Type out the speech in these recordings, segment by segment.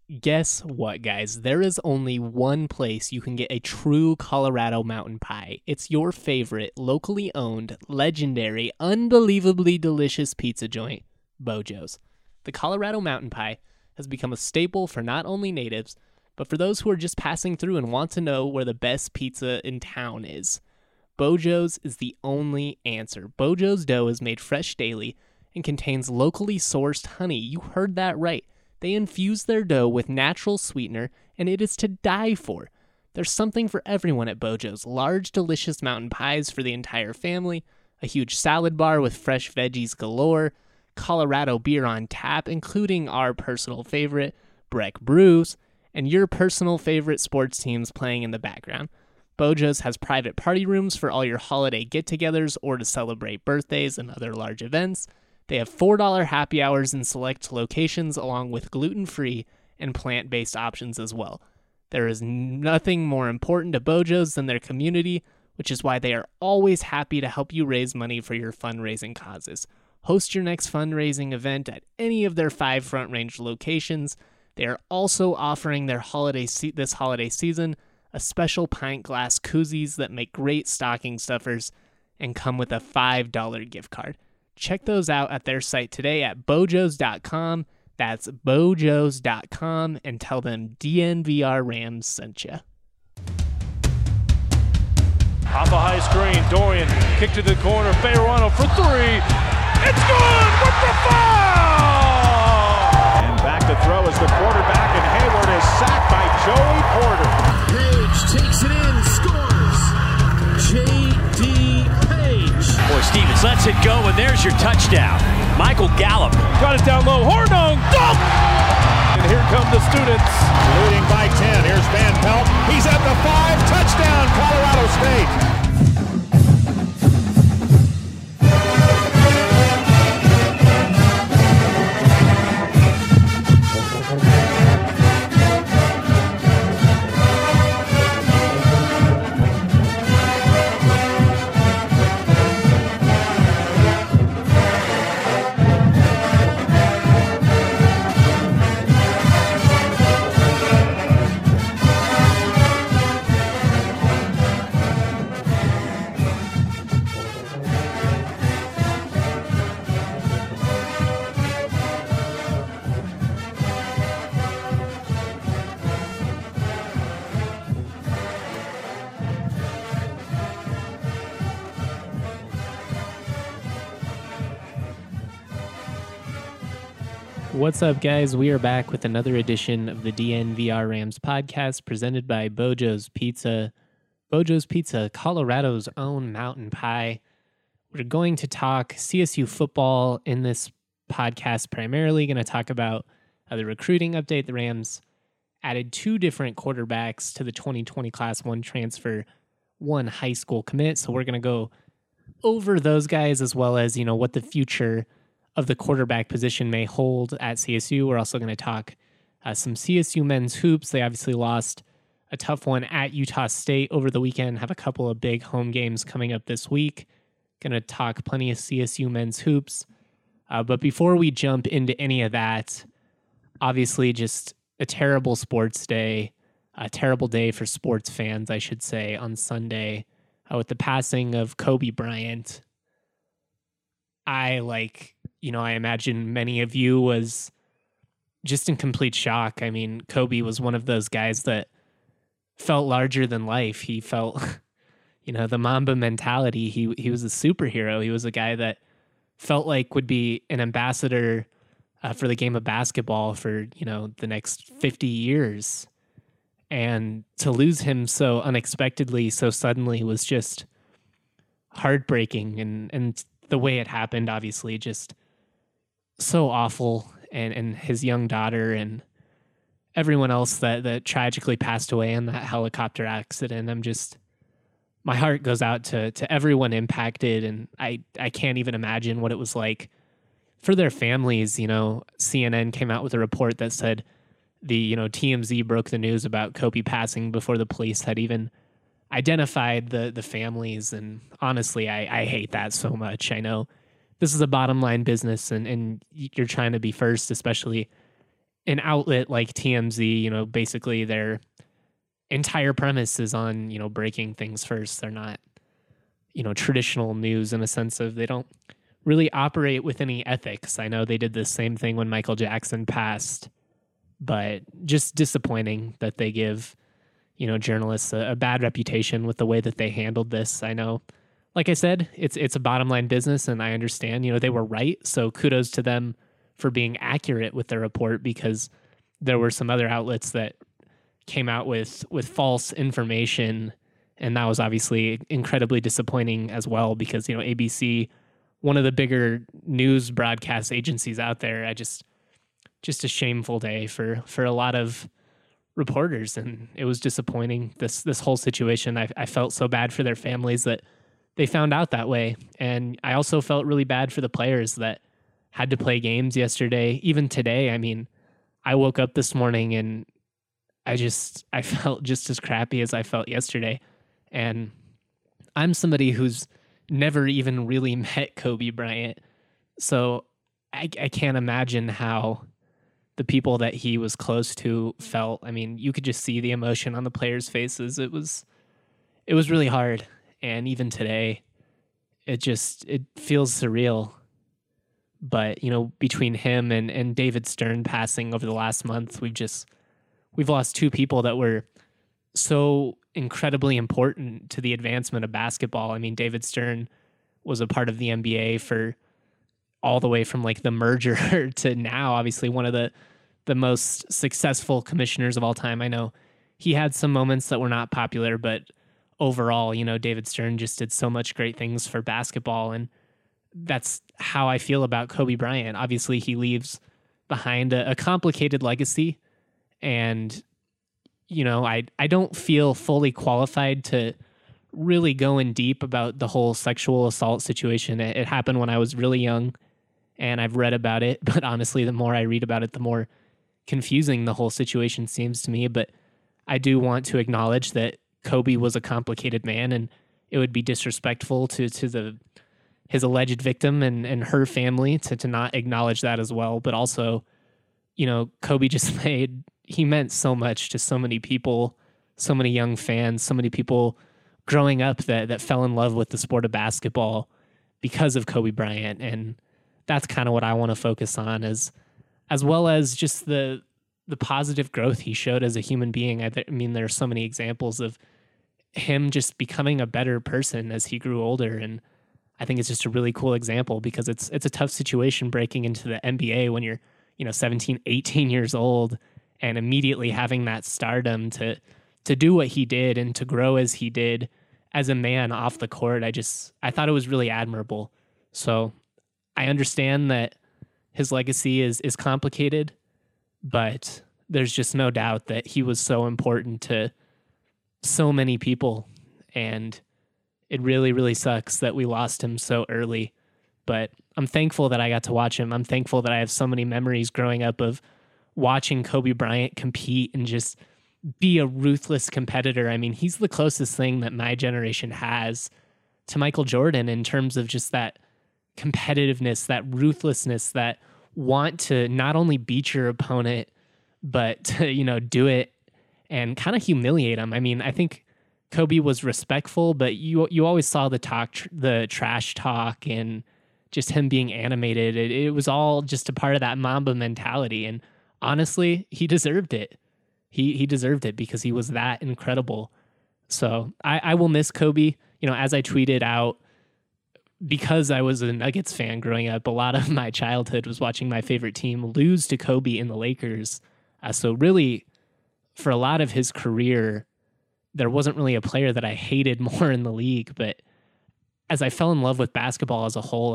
Guess what, guys? There is only one place you can get a true Colorado mountain pie. It's your favorite, locally owned, legendary, unbelievably delicious pizza joint, Bojo's. The Colorado mountain pie has become a staple for not only natives, but for those who are just passing through and want to know where the best pizza in town is. Bojo's is the only answer. Bojo's dough is made fresh daily and contains locally sourced honey. You heard that right. They infuse their dough with natural sweetener, and it is to die for. There's something for everyone at Bojo's. Large, delicious mountain pies for the entire family, a huge salad bar with fresh veggies galore, Colorado beer on tap, including our personal favorite, Breck Brews, and your personal favorite sports teams playing in the background. Bojo's has private party rooms for all your holiday get-togethers or to celebrate birthdays and other large events. They have $4 happy hours in select locations, along with gluten-free and plant-based options as well. There is nothing more important to Bojo's than their community, which is why they are always happy to help you raise money for your fundraising causes. Host your next fundraising event at any of their 5 Front Range locations. They are also offering their this holiday season a special pint glass koozies that make great stocking stuffers and come with a $5 gift card. Check those out at their site today at bojos.com. That's bojos.com, and tell them DNVR Rams sent you. Off a high screen, Dorian kick to the corner, Fayerano for 3. It's good with the foul! And back to throw is the quarterback, and Hayward is sacked by Joey Porter. Page takes it in, scores. J.D. Page. Boy, Stevens lets it go, and there's your touchdown. Michael Gallup. Got it down low, Hornung, dunk! And here come the students. Leading by 10, here's Van Pelt. He's at the 5, touchdown, Colorado State. What's up, guys? We are back with another edition of the DNVR Rams podcast presented by Bojo's Pizza. Bojo's Pizza, Colorado's own mountain pie. We're going to talk CSU football in this podcast, primarily going to talk about the recruiting update. The Rams added 2 different quarterbacks to the 2020 Class 1 transfer, 1 high school commit. So we're going to go over those guys as well as, what the future of the quarterback position may hold at CSU. We're also going to talk some CSU men's hoops. They obviously lost a tough one at Utah State over the weekend, have a couple of big home games coming up this week. Going to talk plenty of CSU men's hoops. But before we jump into any of that, obviously just a terrible sports day, a terrible day for sports fans, I should say, on Sunday with the passing of Kobe Bryant. I imagine many of you was just in complete shock. I mean, Kobe was one of those guys that felt larger than life. He felt, the Mamba mentality. He was a superhero. He was a guy that felt like would be an ambassador for the game of basketball for, the next 50 years. And to lose him so unexpectedly, so suddenly was just heartbreaking. And the way it happened, obviously, just so awful. And his young daughter and everyone else that tragically passed away in that helicopter accident. My heart goes out to everyone impacted, and I can't even imagine what it was like for their families. CNN came out with a report that said TMZ broke the news about Kobe passing before the police had even identified the families. And honestly, I hate that so much. I know this is a bottom line business and you're trying to be first, especially an outlet like TMZ, basically their entire premise is on, breaking things first. They're not, traditional news in a sense of they don't really operate with any ethics. I know they did the same thing when Michael Jackson passed, but just disappointing that they give, journalists a bad reputation with the way that they handled this. I know, like I said, it's a bottom line business, and I understand, they were right. So kudos to them for being accurate with their report, because there were some other outlets that came out with false information, and that was obviously incredibly disappointing as well, because, ABC, one of the bigger news broadcast agencies out there, just a shameful day for a lot of reporters, and it was disappointing, this whole situation. I felt so bad for their families that they found out that way, and I also felt really bad for the players that had to play games yesterday, even today. I mean, I woke up this morning and I felt just as crappy as I felt yesterday, and I'm somebody who's never even really met Kobe Bryant, so I can't imagine how the people that he was close to felt. I mean, you could just see the emotion on the players' faces. It was really hard, and even today, it feels surreal. But, between him and David Stern passing over the last month, we've lost two people that were so incredibly important to the advancement of basketball. I mean, David Stern was a part of the NBA for all the way from like the merger to now, obviously one of the most successful commissioners of all time. I know he had some moments that were not popular, but overall, David Stern just did so much great things for basketball, and that's how I feel about Kobe Bryant. Obviously, he leaves behind a complicated legacy, and I don't feel fully qualified to really go in deep about the whole sexual assault situation. It happened when I was really young, and I've read about it, but honestly, the more I read about it, the more confusing the whole situation seems to me. But I do want to acknowledge that Kobe was a complicated man, and it would be disrespectful to his alleged victim and her family to not acknowledge that as well. But also, Kobe he meant so much to so many people, so many young fans, so many people growing up that fell in love with the sport of basketball because of Kobe Bryant. And that's kind of what I want to focus on, as well as just the positive growth he showed as a human being. I mean, there are so many examples of him just becoming a better person as he grew older, and I think it's just a really cool example, because it's a tough situation breaking into the NBA when you're 17, 18 years old, and immediately having that stardom to do what he did and to grow as he did as a man off the court. I thought it was really admirable. So I understand that his legacy is complicated, but there's just no doubt that he was so important to so many people, and it really, really sucks that we lost him so early. But I'm thankful that I got to watch him. I'm thankful that I have so many memories growing up of watching Kobe Bryant compete and just be a ruthless competitor. I mean, he's the closest thing that my generation has to Michael Jordan in terms of just that competitiveness, that ruthlessness, that want to not only beat your opponent, but to, do it and kind of humiliate him. I mean, I think Kobe was respectful, but you always saw the trash talk and just him being animated. It was all just a part of that Mamba mentality. And honestly, he deserved it. He deserved it because he was that incredible. So I will miss Kobe. As I tweeted out, because I was a Nuggets fan growing up, a lot of my childhood was watching my favorite team lose to Kobe in the Lakers. So really, for a lot of his career, there wasn't really a player that I hated more in the league. But as I fell in love with basketball as a whole,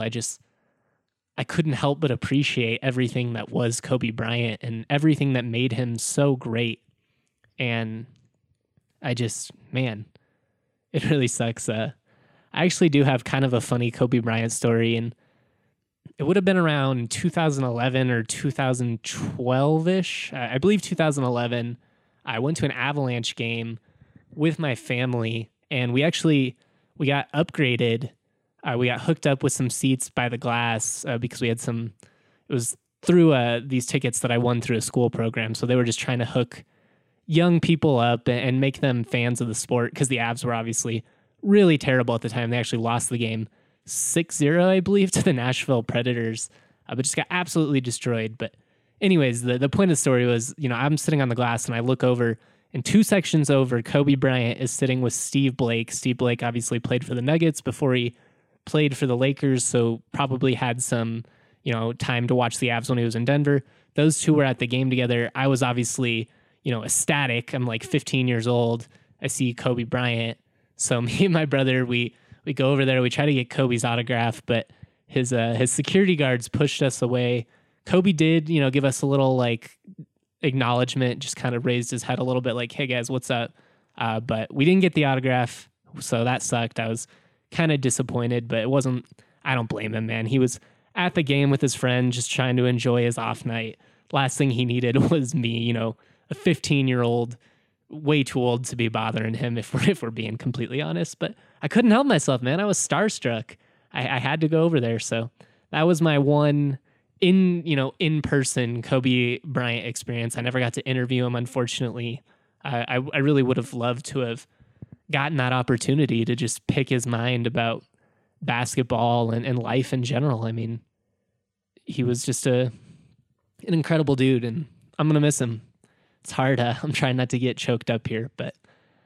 I couldn't help but appreciate everything that was Kobe Bryant and everything that made him so great. And it really sucks. I actually do have kind of a funny Kobe Bryant story, and it would have been around 2011 or 2012-ish. I believe 2011. I went to an Avalanche game with my family, and we got upgraded. We got hooked up with some seats by the glass because we had it was through these tickets that I won through a school program. So they were just trying to hook young people up and make them fans of the sport, because the Avs were obviously really terrible at the time. They actually lost the game 6-0, I believe, to the Nashville Predators, but just got absolutely destroyed. But anyways, the point of the story was, I'm sitting on the glass and I look over, and 2 sections over, Kobe Bryant is sitting with Steve Blake. Steve Blake obviously played for the Nuggets before he played for the Lakers, so probably had some, time to watch the Avs when he was in Denver. Those two were at the game together. I was obviously, ecstatic. I'm like 15 years old. I see Kobe Bryant. So me and my brother, we go over there. We try to get Kobe's autograph, but his security guards pushed us away. Kobe did, give us a little like acknowledgement, just kind of raised his head a little bit like, hey guys, what's up? But we didn't get the autograph, so that sucked. I was kind of disappointed, but I don't blame him, man. He was at the game with his friend, just trying to enjoy his off night. Last thing he needed was me, a 15-year-old, way too old to be bothering him, if we're being completely honest. But I couldn't help myself, man. I was starstruck. I had to go over there. So that was my one in-person Kobe Bryant experience. I never got to interview him, unfortunately. I really would have loved to have gotten that opportunity to just pick his mind about basketball and life in general. I mean, he was just an incredible dude, and I'm going to miss him. It's hard. I'm trying not to get choked up here, but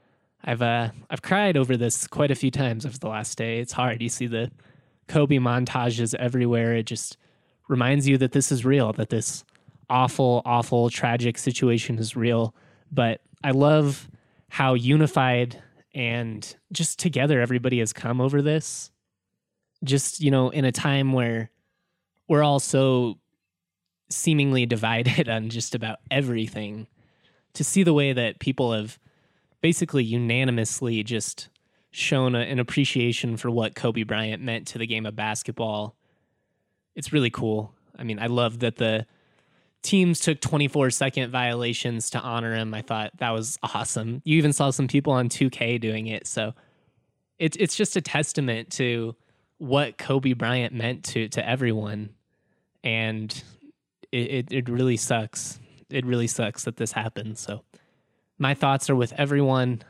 I've cried over this quite a few times over the last day. It's hard. You see the Kobe montages everywhere. It just reminds you that this is real, that this awful, awful, tragic situation is real. But I love how unified and just together everybody has come over this. Just, in a time where we're all so seemingly divided on just about everything, to see the way that people have basically unanimously just shown an appreciation for what Kobe Bryant meant to the game of basketball. It's really cool. I mean, I love that the teams took 24-second violations to honor him. I thought that was awesome. You even saw some people on 2K doing it. So it's just a testament to what Kobe Bryant meant to everyone. And it really sucks. It really sucks that this happened. So my thoughts are with everyone.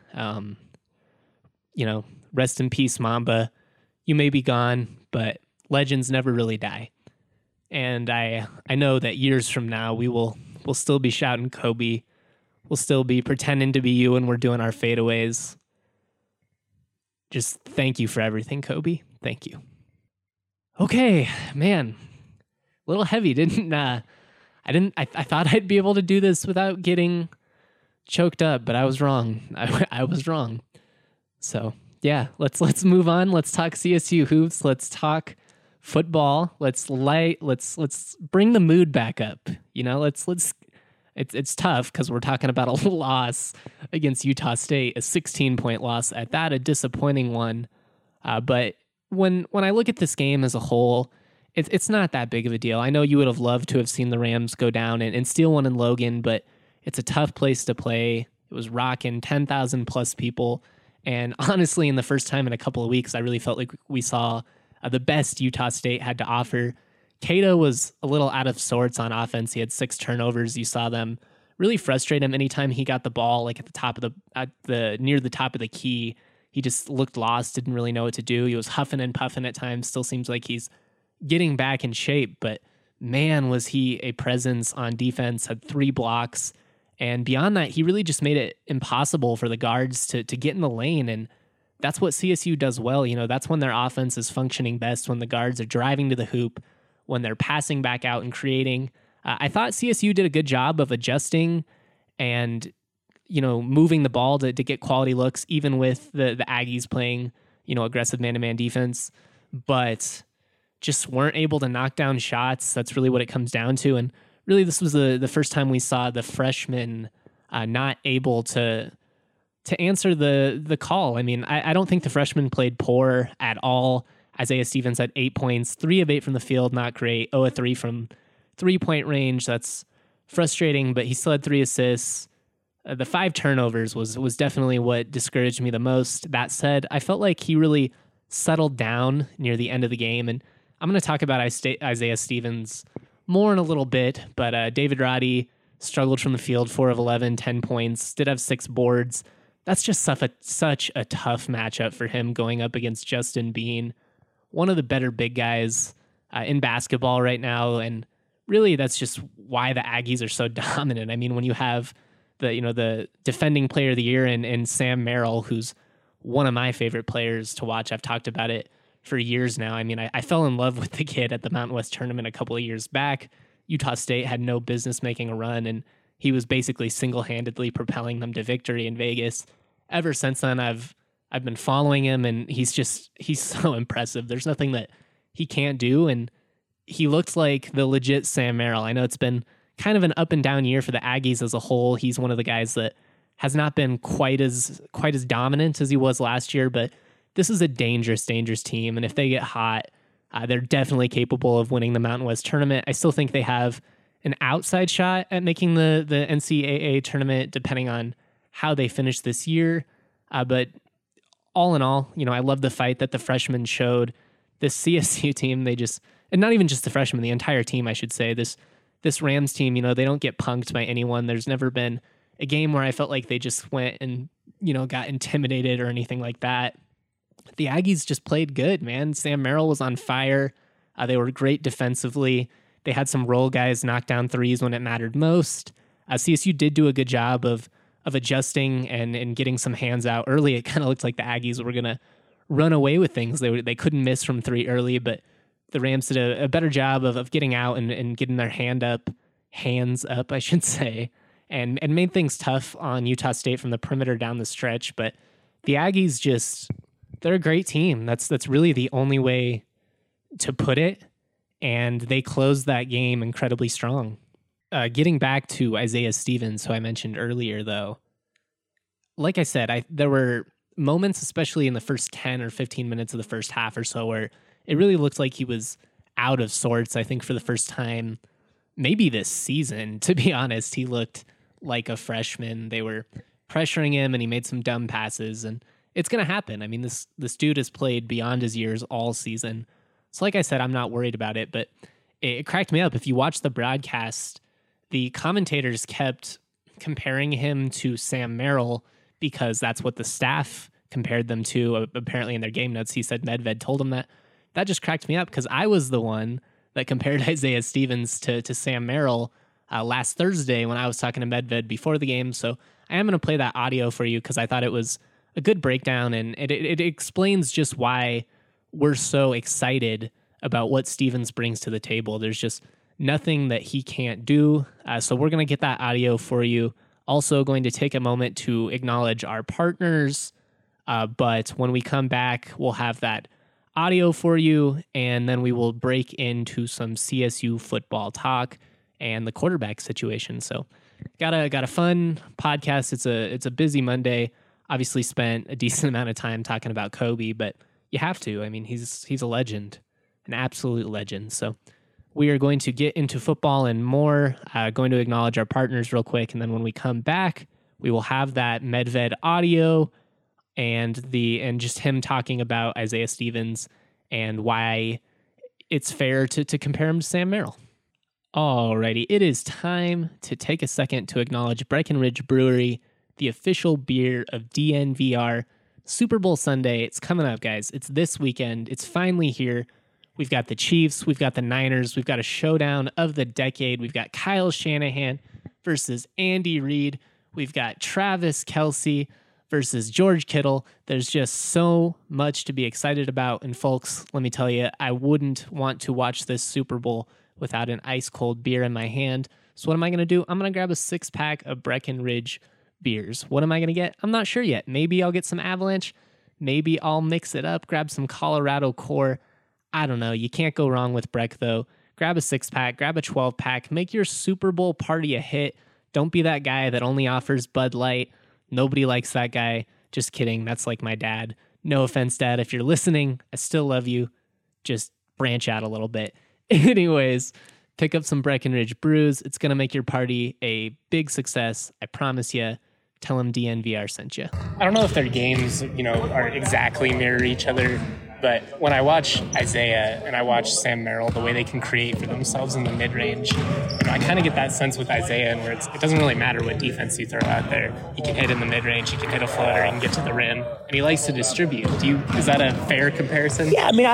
Rest in peace, Mamba. You may be gone, but legends never really die. And I know that years from now we'll still be shouting Kobe. We'll still be pretending to be you when we're doing our fadeaways. Just thank you for everything, Kobe. Thank you. Okay, man. A little heavy, I thought I'd be able to do this without getting choked up, but I was wrong. I was wrong. So yeah, let's move on. Let's talk CSU hoops. Let's talk football. Let's bring the mood back up. It's tough because we're talking about a loss against Utah State, a 16-point loss at that, a disappointing one. But when I look at this game as a whole, it's not that big of a deal. I know you would have loved to have seen the Rams go down and steal one in Logan, but it's a tough place to play. It was rocking 10,000 plus people. And honestly, in the first time in a couple of weeks, I really felt like we saw the best Utah State had to offer. Cato was a little out of sorts on offense. He had 6 turnovers. You saw them really frustrate him anytime he got the ball, like at the top of near the top of the key. He just looked lost, didn't really know what to do. He was huffing and puffing at times. Still seems like he's getting back in shape, but man, was he a presence on defense, had 3 blocks. And beyond that, he really just made it impossible for the guards to get in the lane. And that's what CSU does well. That's when their offense is functioning best, when the guards are driving to the hoop, when they're passing back out and creating. I thought CSU did a good job of adjusting and, moving the ball to get quality looks, even with the Aggies playing, aggressive man-to-man defense, but just weren't able to knock down shots. That's really what it comes down to. And really, this was the first time we saw the freshmen not able to answer the call. I mean, I don't think the freshmen played poor at all. Isaiah Stevens had 8 points, 3 of 8 from the field, not great. 0 of 3 from 3-point range. That's frustrating, but he still had 3 assists. The 5 turnovers was definitely what discouraged me the most. That said, I felt like he really settled down near the end of the game, and I'm going to talk about Isaiah Stevens more in a little bit, but David Roddy struggled from the field, 4 of 11, 10 points, did have 6 boards. That's just such a tough matchup for him going up against Justin Bean, one of the better big guys in basketball right now. And really, that's just why the Aggies are so dominant. I mean, when you have the defending player of the year in Sam Merrill, who's one of my favorite players to watch. I've talked about it for years now. I mean, I fell in love with the kid at the Mountain West tournament a couple of years back. Utah State had no business making a run, and he was basically single-handedly propelling them to victory in Vegas. Ever since then, I've been following him, and he's so impressive. There's nothing that he can't do, and he looks like the legit Sam Merrill. I know it's been kind of an up and down year for the Aggies as a whole. He's one of the guys that has not been quite as dominant as he was last year, but this is a dangerous team, and if they get hot, they're definitely capable of winning the Mountain West tournament. I still think they have an outside shot at making the NCAA tournament, depending on how they finish this year. But all in all, I love the fight that the freshmen showed. This CSU team, and not even just the freshmen, the entire team, I should say. This Rams team, they don't get punked by anyone. There's never been a game where I felt like they just went and, got intimidated or anything like that. The Aggies just played good, man. Sam Merrill was on fire. They were great defensively. They had some role guys knock down threes when it mattered most. CSU did do a good job of adjusting and getting some hands out early. It kind of looked like the Aggies were going to run away with things. They couldn't miss from 3 early, but the Rams did a better job of getting out and getting their hands up, I should say, and made things tough on Utah State from the perimeter down the stretch. But the Aggies they're a great team. That's really the only way to put it. And they closed that game incredibly strong. Getting back to Isaiah Stevens, who I mentioned earlier, though, like I said, there were moments, especially in the first 10 or 15 minutes of the first half or so, where it really looked like he was out of sorts. I think for the first time, maybe this season, to be honest, he looked like a freshman. They were pressuring him, and he made some dumb passes, and it's going to happen. I mean, this dude has played beyond his years all season. So like I said, I'm not worried about it, but it cracked me up. If you watch the broadcast, the commentators kept comparing him to Sam Merrill because that's what the staff compared them to. Apparently in their game notes, he said Medved told him that. That just cracked me up because I was the one that compared Isaiah Stevens to Sam Merrill last Thursday when I was talking to Medved before the game. So I am going to play that audio for you because I thought it was a good breakdown, and it explains just why we're so excited about what Stevens brings to the table. There's just nothing that he can't do. So we're going to get that audio for you. Also going to take a moment to acknowledge our partners. But when we come back, we'll have that audio for you, and then we will break into some CSU football talk and the quarterback situation. So got a fun podcast. It's a busy Monday. Obviously spent a decent amount of time talking about Kobe, but you have to. I mean, he's a legend, an absolute legend. So we are going to get into football and more. Going to acknowledge our partners real quick, and then when we come back, we will have that Medved audio and just him talking about Isaiah Stevens and why it's fair to compare him to Sam Merrill. Alrighty, it is time to take a second to acknowledge Breckenridge Brewery, the official beer of DNVR. Super Bowl Sunday, it's coming up, guys. It's this weekend. It's finally here. We've got the Chiefs. We've got the Niners. We've got a showdown of the decade. We've got Kyle Shanahan versus Andy Reid. We've got Travis Kelce versus George Kittle. There's just so much to be excited about. And folks, let me tell you, I wouldn't want to watch this Super Bowl without an ice-cold beer in my hand. So what am I going to do? I'm going to grab a 6-pack of Breckenridge beers. What am I going to get? I'm not sure yet. Maybe I'll get some Avalanche. Maybe I'll mix it up, grab some Colorado Core. I don't know. You can't go wrong with Breck, though. Grab a 6-pack, grab a 12-pack. Make your Super Bowl party a hit. Don't be that guy that only offers Bud Light. Nobody likes that guy. Just kidding. That's like my dad. No offense, Dad. If you're listening, I still love you. Just branch out a little bit. Anyways, pick up some Breckenridge brews. It's going to make your party a big success. I promise you. Tell them DNVR sent you. I don't know if their games, are exactly mirror each other But when I watch Isaiah and I watch Sam Merrill, the way they can create for themselves in the mid-range, I kind of get that sense with Isaiah, where it doesn't really matter what defense you throw out there. He can hit in the mid-range, he can hit a floater, he can get to the rim, and he likes to distribute. Is that a fair comparison? Yeah, I mean,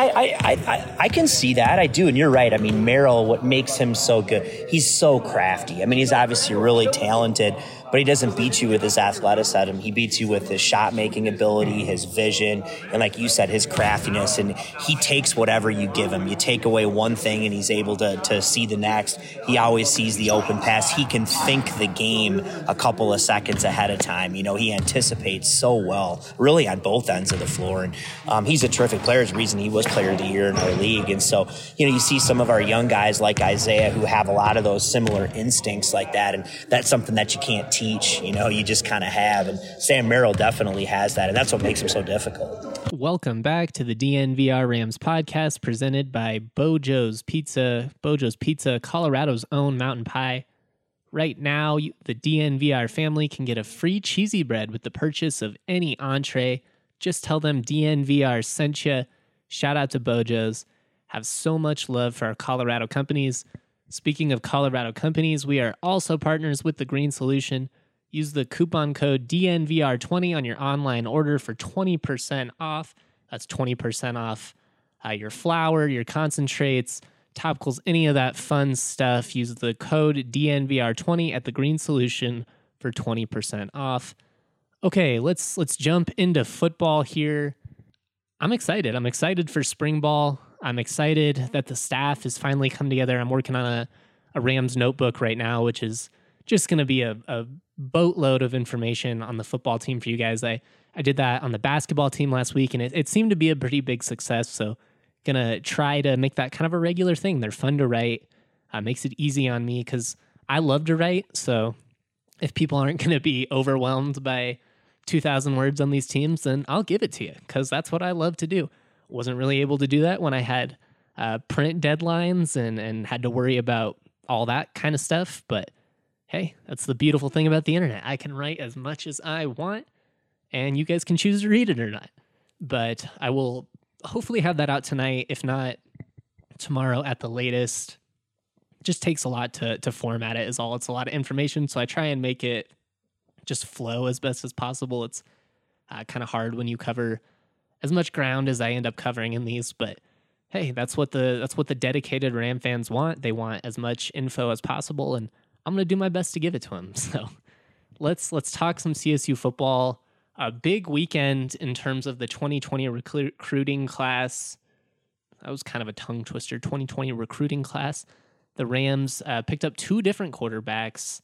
I can see that. I do, and you're right. I mean, Merrill, what makes him so good, he's so crafty. I mean, he's obviously really talented, but he doesn't beat you with his athleticism. He beats you with his shot-making ability, his vision, and like you said, his craftiness. And he takes whatever you give him. You take away one thing, and he's able to see the next. He always sees the open pass. He can think the game a couple of seconds ahead of time. You know, he anticipates so well, really on both ends of the floor. And he's a terrific player. It's the reason he was Player of the Year in our league. And so, you know, you see some of our young guys like Isaiah who have a lot of those similar instincts like that. And that's something that you can't teach. You know, you just kind of have. And Sam Merrill definitely has that. And that's what makes him so difficult. Welcome back to the DNVR Rams podcast presented by Bojo's Pizza. Bojo's Pizza, Colorado's own mountain pie. Right now, the DNVR family can get a free cheesy bread with the purchase of any entree. Just tell them DNVR sent you. Shout out to Bojo's. Have so much love for our Colorado companies. Speaking of Colorado companies, we are also partners with The Green Solution. Use the coupon code DNVR20 on your online order for 20% off. That's 20% off your flour, your concentrates, topicals, any of that fun stuff. Use the code DNVR20 at The Green Solution for 20% off. Okay, let's jump into football here. I'm excited. I'm excited for spring ball. I'm excited that the staff has finally come together. I'm working on a Rams notebook right now, which is just going to be a boatload of information on the football team for you guys. I did that on the basketball team last week, and it seemed to be a pretty big success. So going to try to make that kind of a regular thing. They're fun to write. Makes it easy on me because I love to write. So if people aren't going to be overwhelmed by 2,000 words on these teams, then I'll give it to you because that's what I love to do. Wasn't really able to do that when I had print deadlines and had to worry about all that kind of stuff. But hey, that's the beautiful thing about the internet. I can write as much as I want, and you guys can choose to read it or not. But I will hopefully have that out tonight, if not tomorrow at the latest. Just takes a lot to format it is all. It's a lot of information, so I try and make it just flow as best as possible. It's kind of hard when you cover as much ground as I end up covering in these, but hey, that's what the dedicated Ram fans want. They want as much info as possible, and I'm going to do my best to give it to them. So let's talk some CSU football. A big weekend in terms of the 2020 recruiting class. That was kind of a tongue twister. 2020 recruiting class. The Rams picked up two different quarterbacks.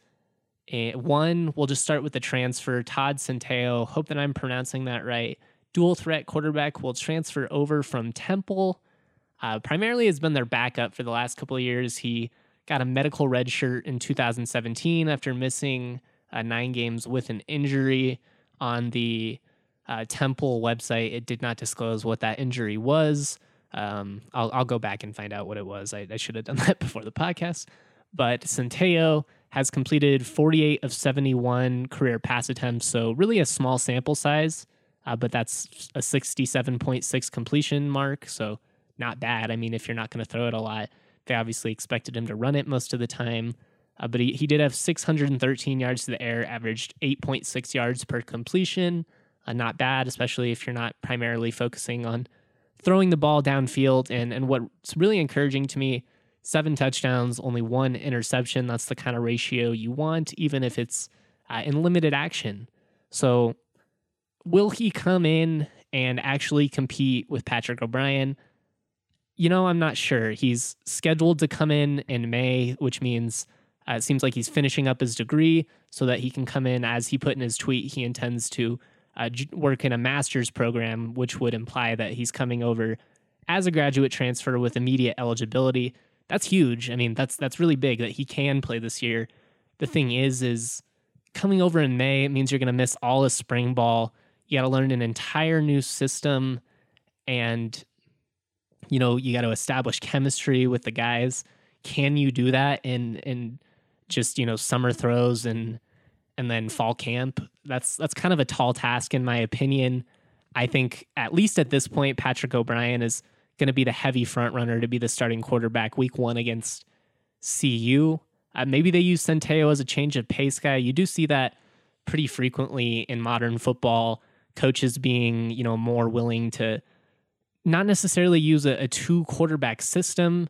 One, we'll just start with the transfer, Todd Centeio. Hope that I'm pronouncing that right. Dual threat quarterback will transfer over from Temple. Primarily has been their backup for the last couple of years. He got a medical red shirt in 2017 after missing 9 games with an injury. On the Temple website, it did not disclose what that injury was. I'll go back and find out what it was. I should have done that before the podcast. But Centeio has completed 48 of 71 career pass attempts, so really a small sample size, but that's a 67.6 completion mark, so not bad. I mean, if you're not going to throw it a lot, they obviously expected him to run it most of the time. But he did have 613 yards to the air, averaged 8.6 yards per completion. Not bad, especially if you're not primarily focusing on throwing the ball downfield. And what's really encouraging to me, 7 touchdowns, only 1 interception. That's the kind of ratio you want, even if it's in limited action. So will he come in and actually compete with Patrick O'Brien? You know, I'm not sure. He's scheduled to come in May, which means it seems like he's finishing up his degree so that he can come in. As he put in his tweet, he intends to work in a master's program, which would imply that he's coming over as a graduate transfer with immediate eligibility. That's huge. I mean, that's really big that he can play this year. The thing is coming over in May, it means you're going to miss all of spring ball. You got to learn an entire new system, and you know, you got to establish chemistry with the guys. Can you do that in just, you know, summer throws and then fall camp? That's kind of a tall task in my opinion. I think at least at this point, Patrick O'Brien is going to be the heavy front runner to be the starting quarterback week 1 against CU. Maybe they use Centeio as a change of pace guy. You do see that pretty frequently in modern football, coaches being, more willing to not necessarily use a 2 quarterback system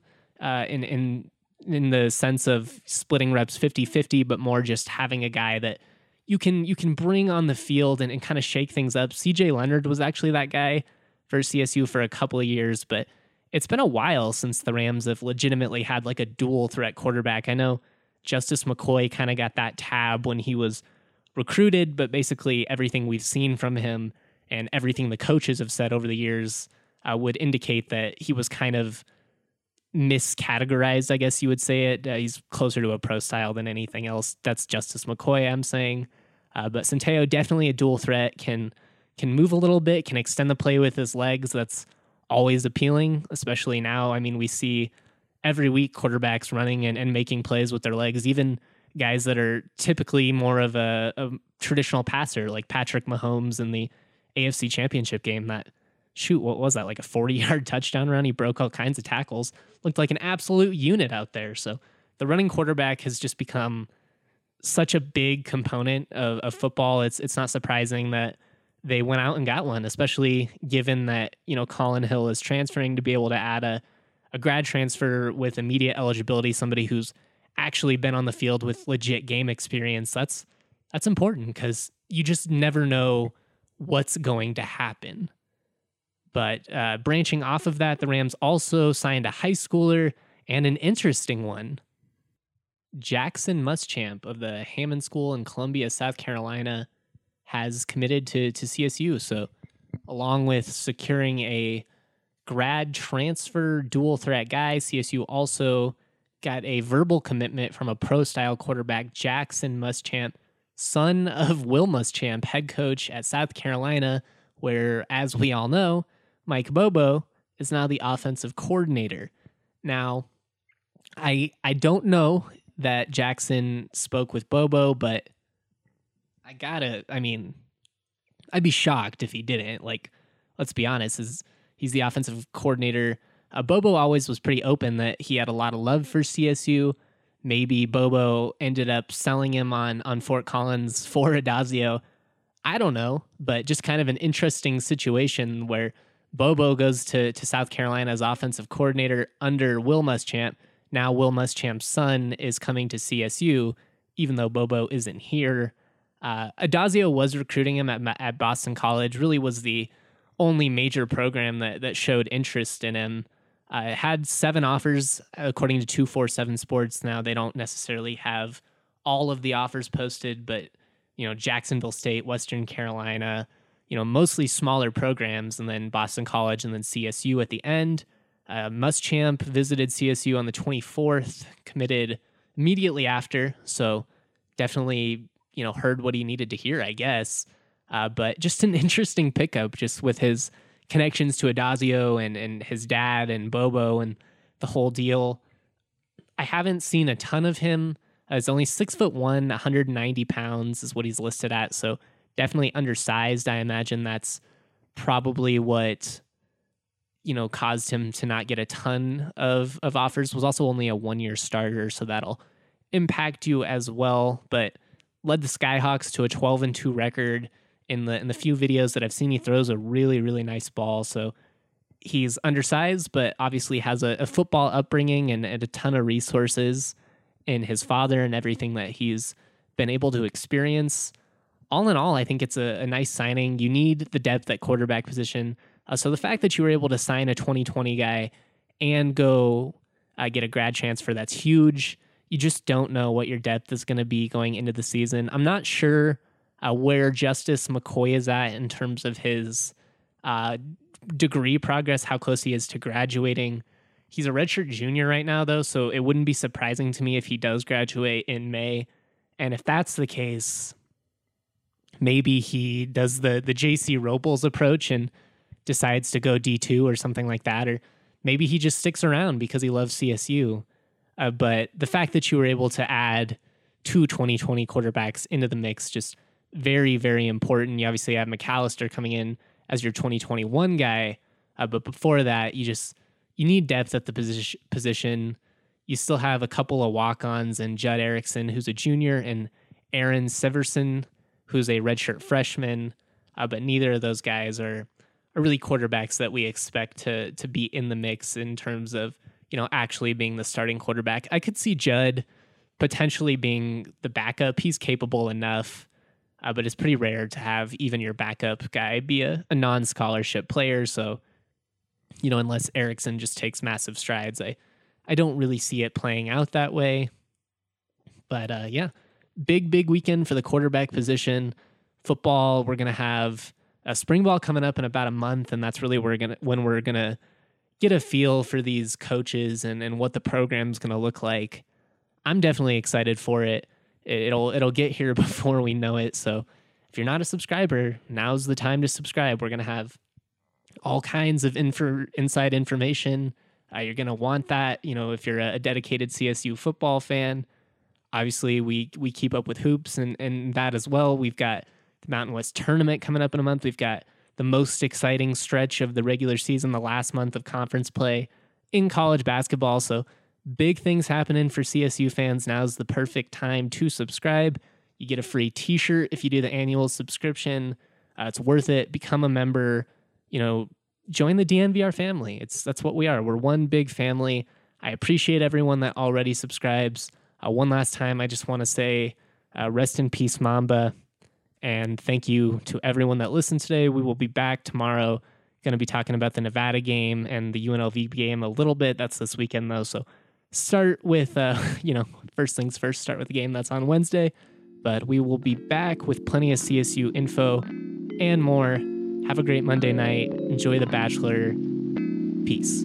in the sense of splitting reps 50-50, but more just having a guy that you can bring on the field and kind of shake things up. CJ Leonard was actually that guy for CSU for a couple of years, but it's been a while since the Rams have legitimately had like a dual threat quarterback. I know Justice McCoy kind of got that tab when he was recruited, but basically everything we've seen from him and everything the coaches have said over the years would indicate that he was kind of miscategorized, I guess you would say it. He's closer to a pro style than anything else. That's Justice McCoy, I'm saying. But Centeio, definitely a dual threat, can move a little bit, can extend the play with his legs. That's always appealing, especially now. I mean, we see every week quarterbacks running and making plays with their legs, even guys that are typically more of a traditional passer, like Patrick Mahomes in the AFC Championship game. What was that, like a 40-yard touchdown run? He broke all kinds of tackles, looked like an absolute unit out there. So the running quarterback has just become such a big component of football. It's not surprising that they went out and got one, especially given that, Colin Hill is transferring, to be able to add a grad transfer with immediate eligibility, somebody who's actually been on the field with legit game experience. That's important because you just never know what's going to happen. But branching off of that, the Rams also signed a high schooler and an interesting one. Jackson Muschamp of the Hammond School in Columbia, South Carolina, has committed to CSU. So along with securing a grad transfer dual threat guy, CSU also got a verbal commitment from a pro-style quarterback, Jackson Muschamp, son of Will Muschamp, head coach at South Carolina, where, as we all know, Mike Bobo is now the offensive coordinator. Now, I don't know that Jackson spoke with Bobo, but I'd be shocked if he didn't. Like, let's be honest, he's the offensive coordinator. Bobo always was pretty open that he had a lot of love for CSU. Maybe Bobo ended up selling him on Fort Collins for Adazio. I don't know, but just kind of an interesting situation where Bobo goes to South Carolina as offensive coordinator under Will Muschamp. Now Will Muschamp's son is coming to CSU, even though Bobo isn't here. Adazio was recruiting him at Boston College, really was the only major program that showed interest in him. Had 7 offers, according to 247 Sports. Now, they don't necessarily have all of the offers posted, but, Jacksonville State, Western Carolina, mostly smaller programs, and then Boston College, and then CSU at the end. Muschamp visited CSU on the 24th, committed immediately after, so definitely, heard what he needed to hear, I guess. But just an interesting pickup, just with his connections to Adazio and his dad and Bobo and the whole deal. I haven't seen a ton of him. He's only 6'1", 190 pounds is what he's listed at, so definitely undersized. I imagine that's probably what caused him to not get a ton of offers. Was also only a 1-year starter, so that'll impact you as well. But led the Skyhawks to a 12-2 record. In the few videos that I've seen, he throws a really, really nice ball. So he's undersized, but obviously has a football upbringing and a ton of resources in his father and everything that he's been able to experience. All in all, I think it's a nice signing. You need the depth at quarterback position. So the fact that you were able to sign a 2020 guy and go get a grad transfer, that's huge. You just don't know what your depth is going to be going into the season. I'm not sure where Justice McCoy is at in terms of his degree progress, how close he is to graduating. He's a redshirt junior right now, though, so it wouldn't be surprising to me if he does graduate in May. And if that's the case, maybe he does the J.C. Robles approach and decides to go D2 or something like that, or maybe he just sticks around because he loves CSU. But the fact that you were able to add 2 2020 quarterbacks into the mix, just very, very important. You obviously have McAllister coming in as your 2021 guy. But before that, you need depth at the position. You still have a couple of walk-ons and Judd Erickson, who's a junior, and Aaron Severson, who's a redshirt freshman. But neither of those guys are really quarterbacks that we expect to be in the mix in terms of, actually being the starting quarterback. I could see Judd potentially being the backup. He's capable enough, but it's pretty rare to have even your backup guy be a non-scholarship player. So, unless Erickson just takes massive strides, I don't really see it playing out that way. But big weekend for the quarterback position. Football, we're going to have a spring ball coming up in about a month, and that's really when we're going to get a feel for these coaches and what the program's going to look like. I'm definitely excited for it. It'll get here before we know it. So if you're not a subscriber, now's the time to subscribe. We're going to have all kinds of inside information. You're going to want that, if you're a dedicated CSU football fan. Obviously, we keep up with hoops and that as well. We've got the Mountain West Tournament coming up in a month. We've got the most exciting stretch of the regular season, the last month of conference play in college basketball. So big things happening for CSU fans. Now's the perfect time to subscribe. You get a free t-shirt if you do the annual subscription. It's worth it. Become a member. Join the DNVR family. That's what we are. We're one big family. I appreciate everyone that already subscribes. One last time, I just want to say rest in peace, Mamba. And thank you to everyone that listened today. We will be back tomorrow. Going to be talking about the Nevada game and the UNLV game a little bit. That's this weekend, though. So start with, first things first, start with the game that's on Wednesday. But we will be back with plenty of CSU info and more. Have a great Monday night. Enjoy The Bachelor. Peace.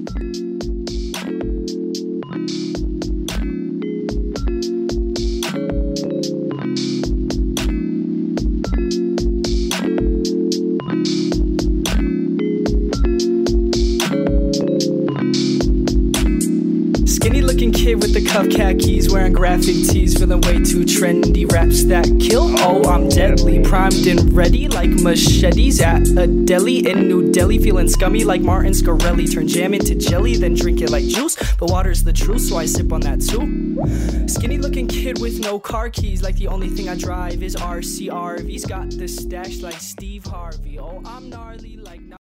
Kid with the cuff khakis, wearing graphic tees, feeling way too trendy. Raps that kill, oh I'm deadly, primed and ready like machetes at a deli in New Delhi. Feeling scummy like Martin Scarelli, turn jam into jelly, then drink it like juice. But water's the truth, so I sip on that too. Skinny looking kid with no car keys, like the only thing I drive is RCRV's got the stash like Steve Harvey. Oh I'm gnarly like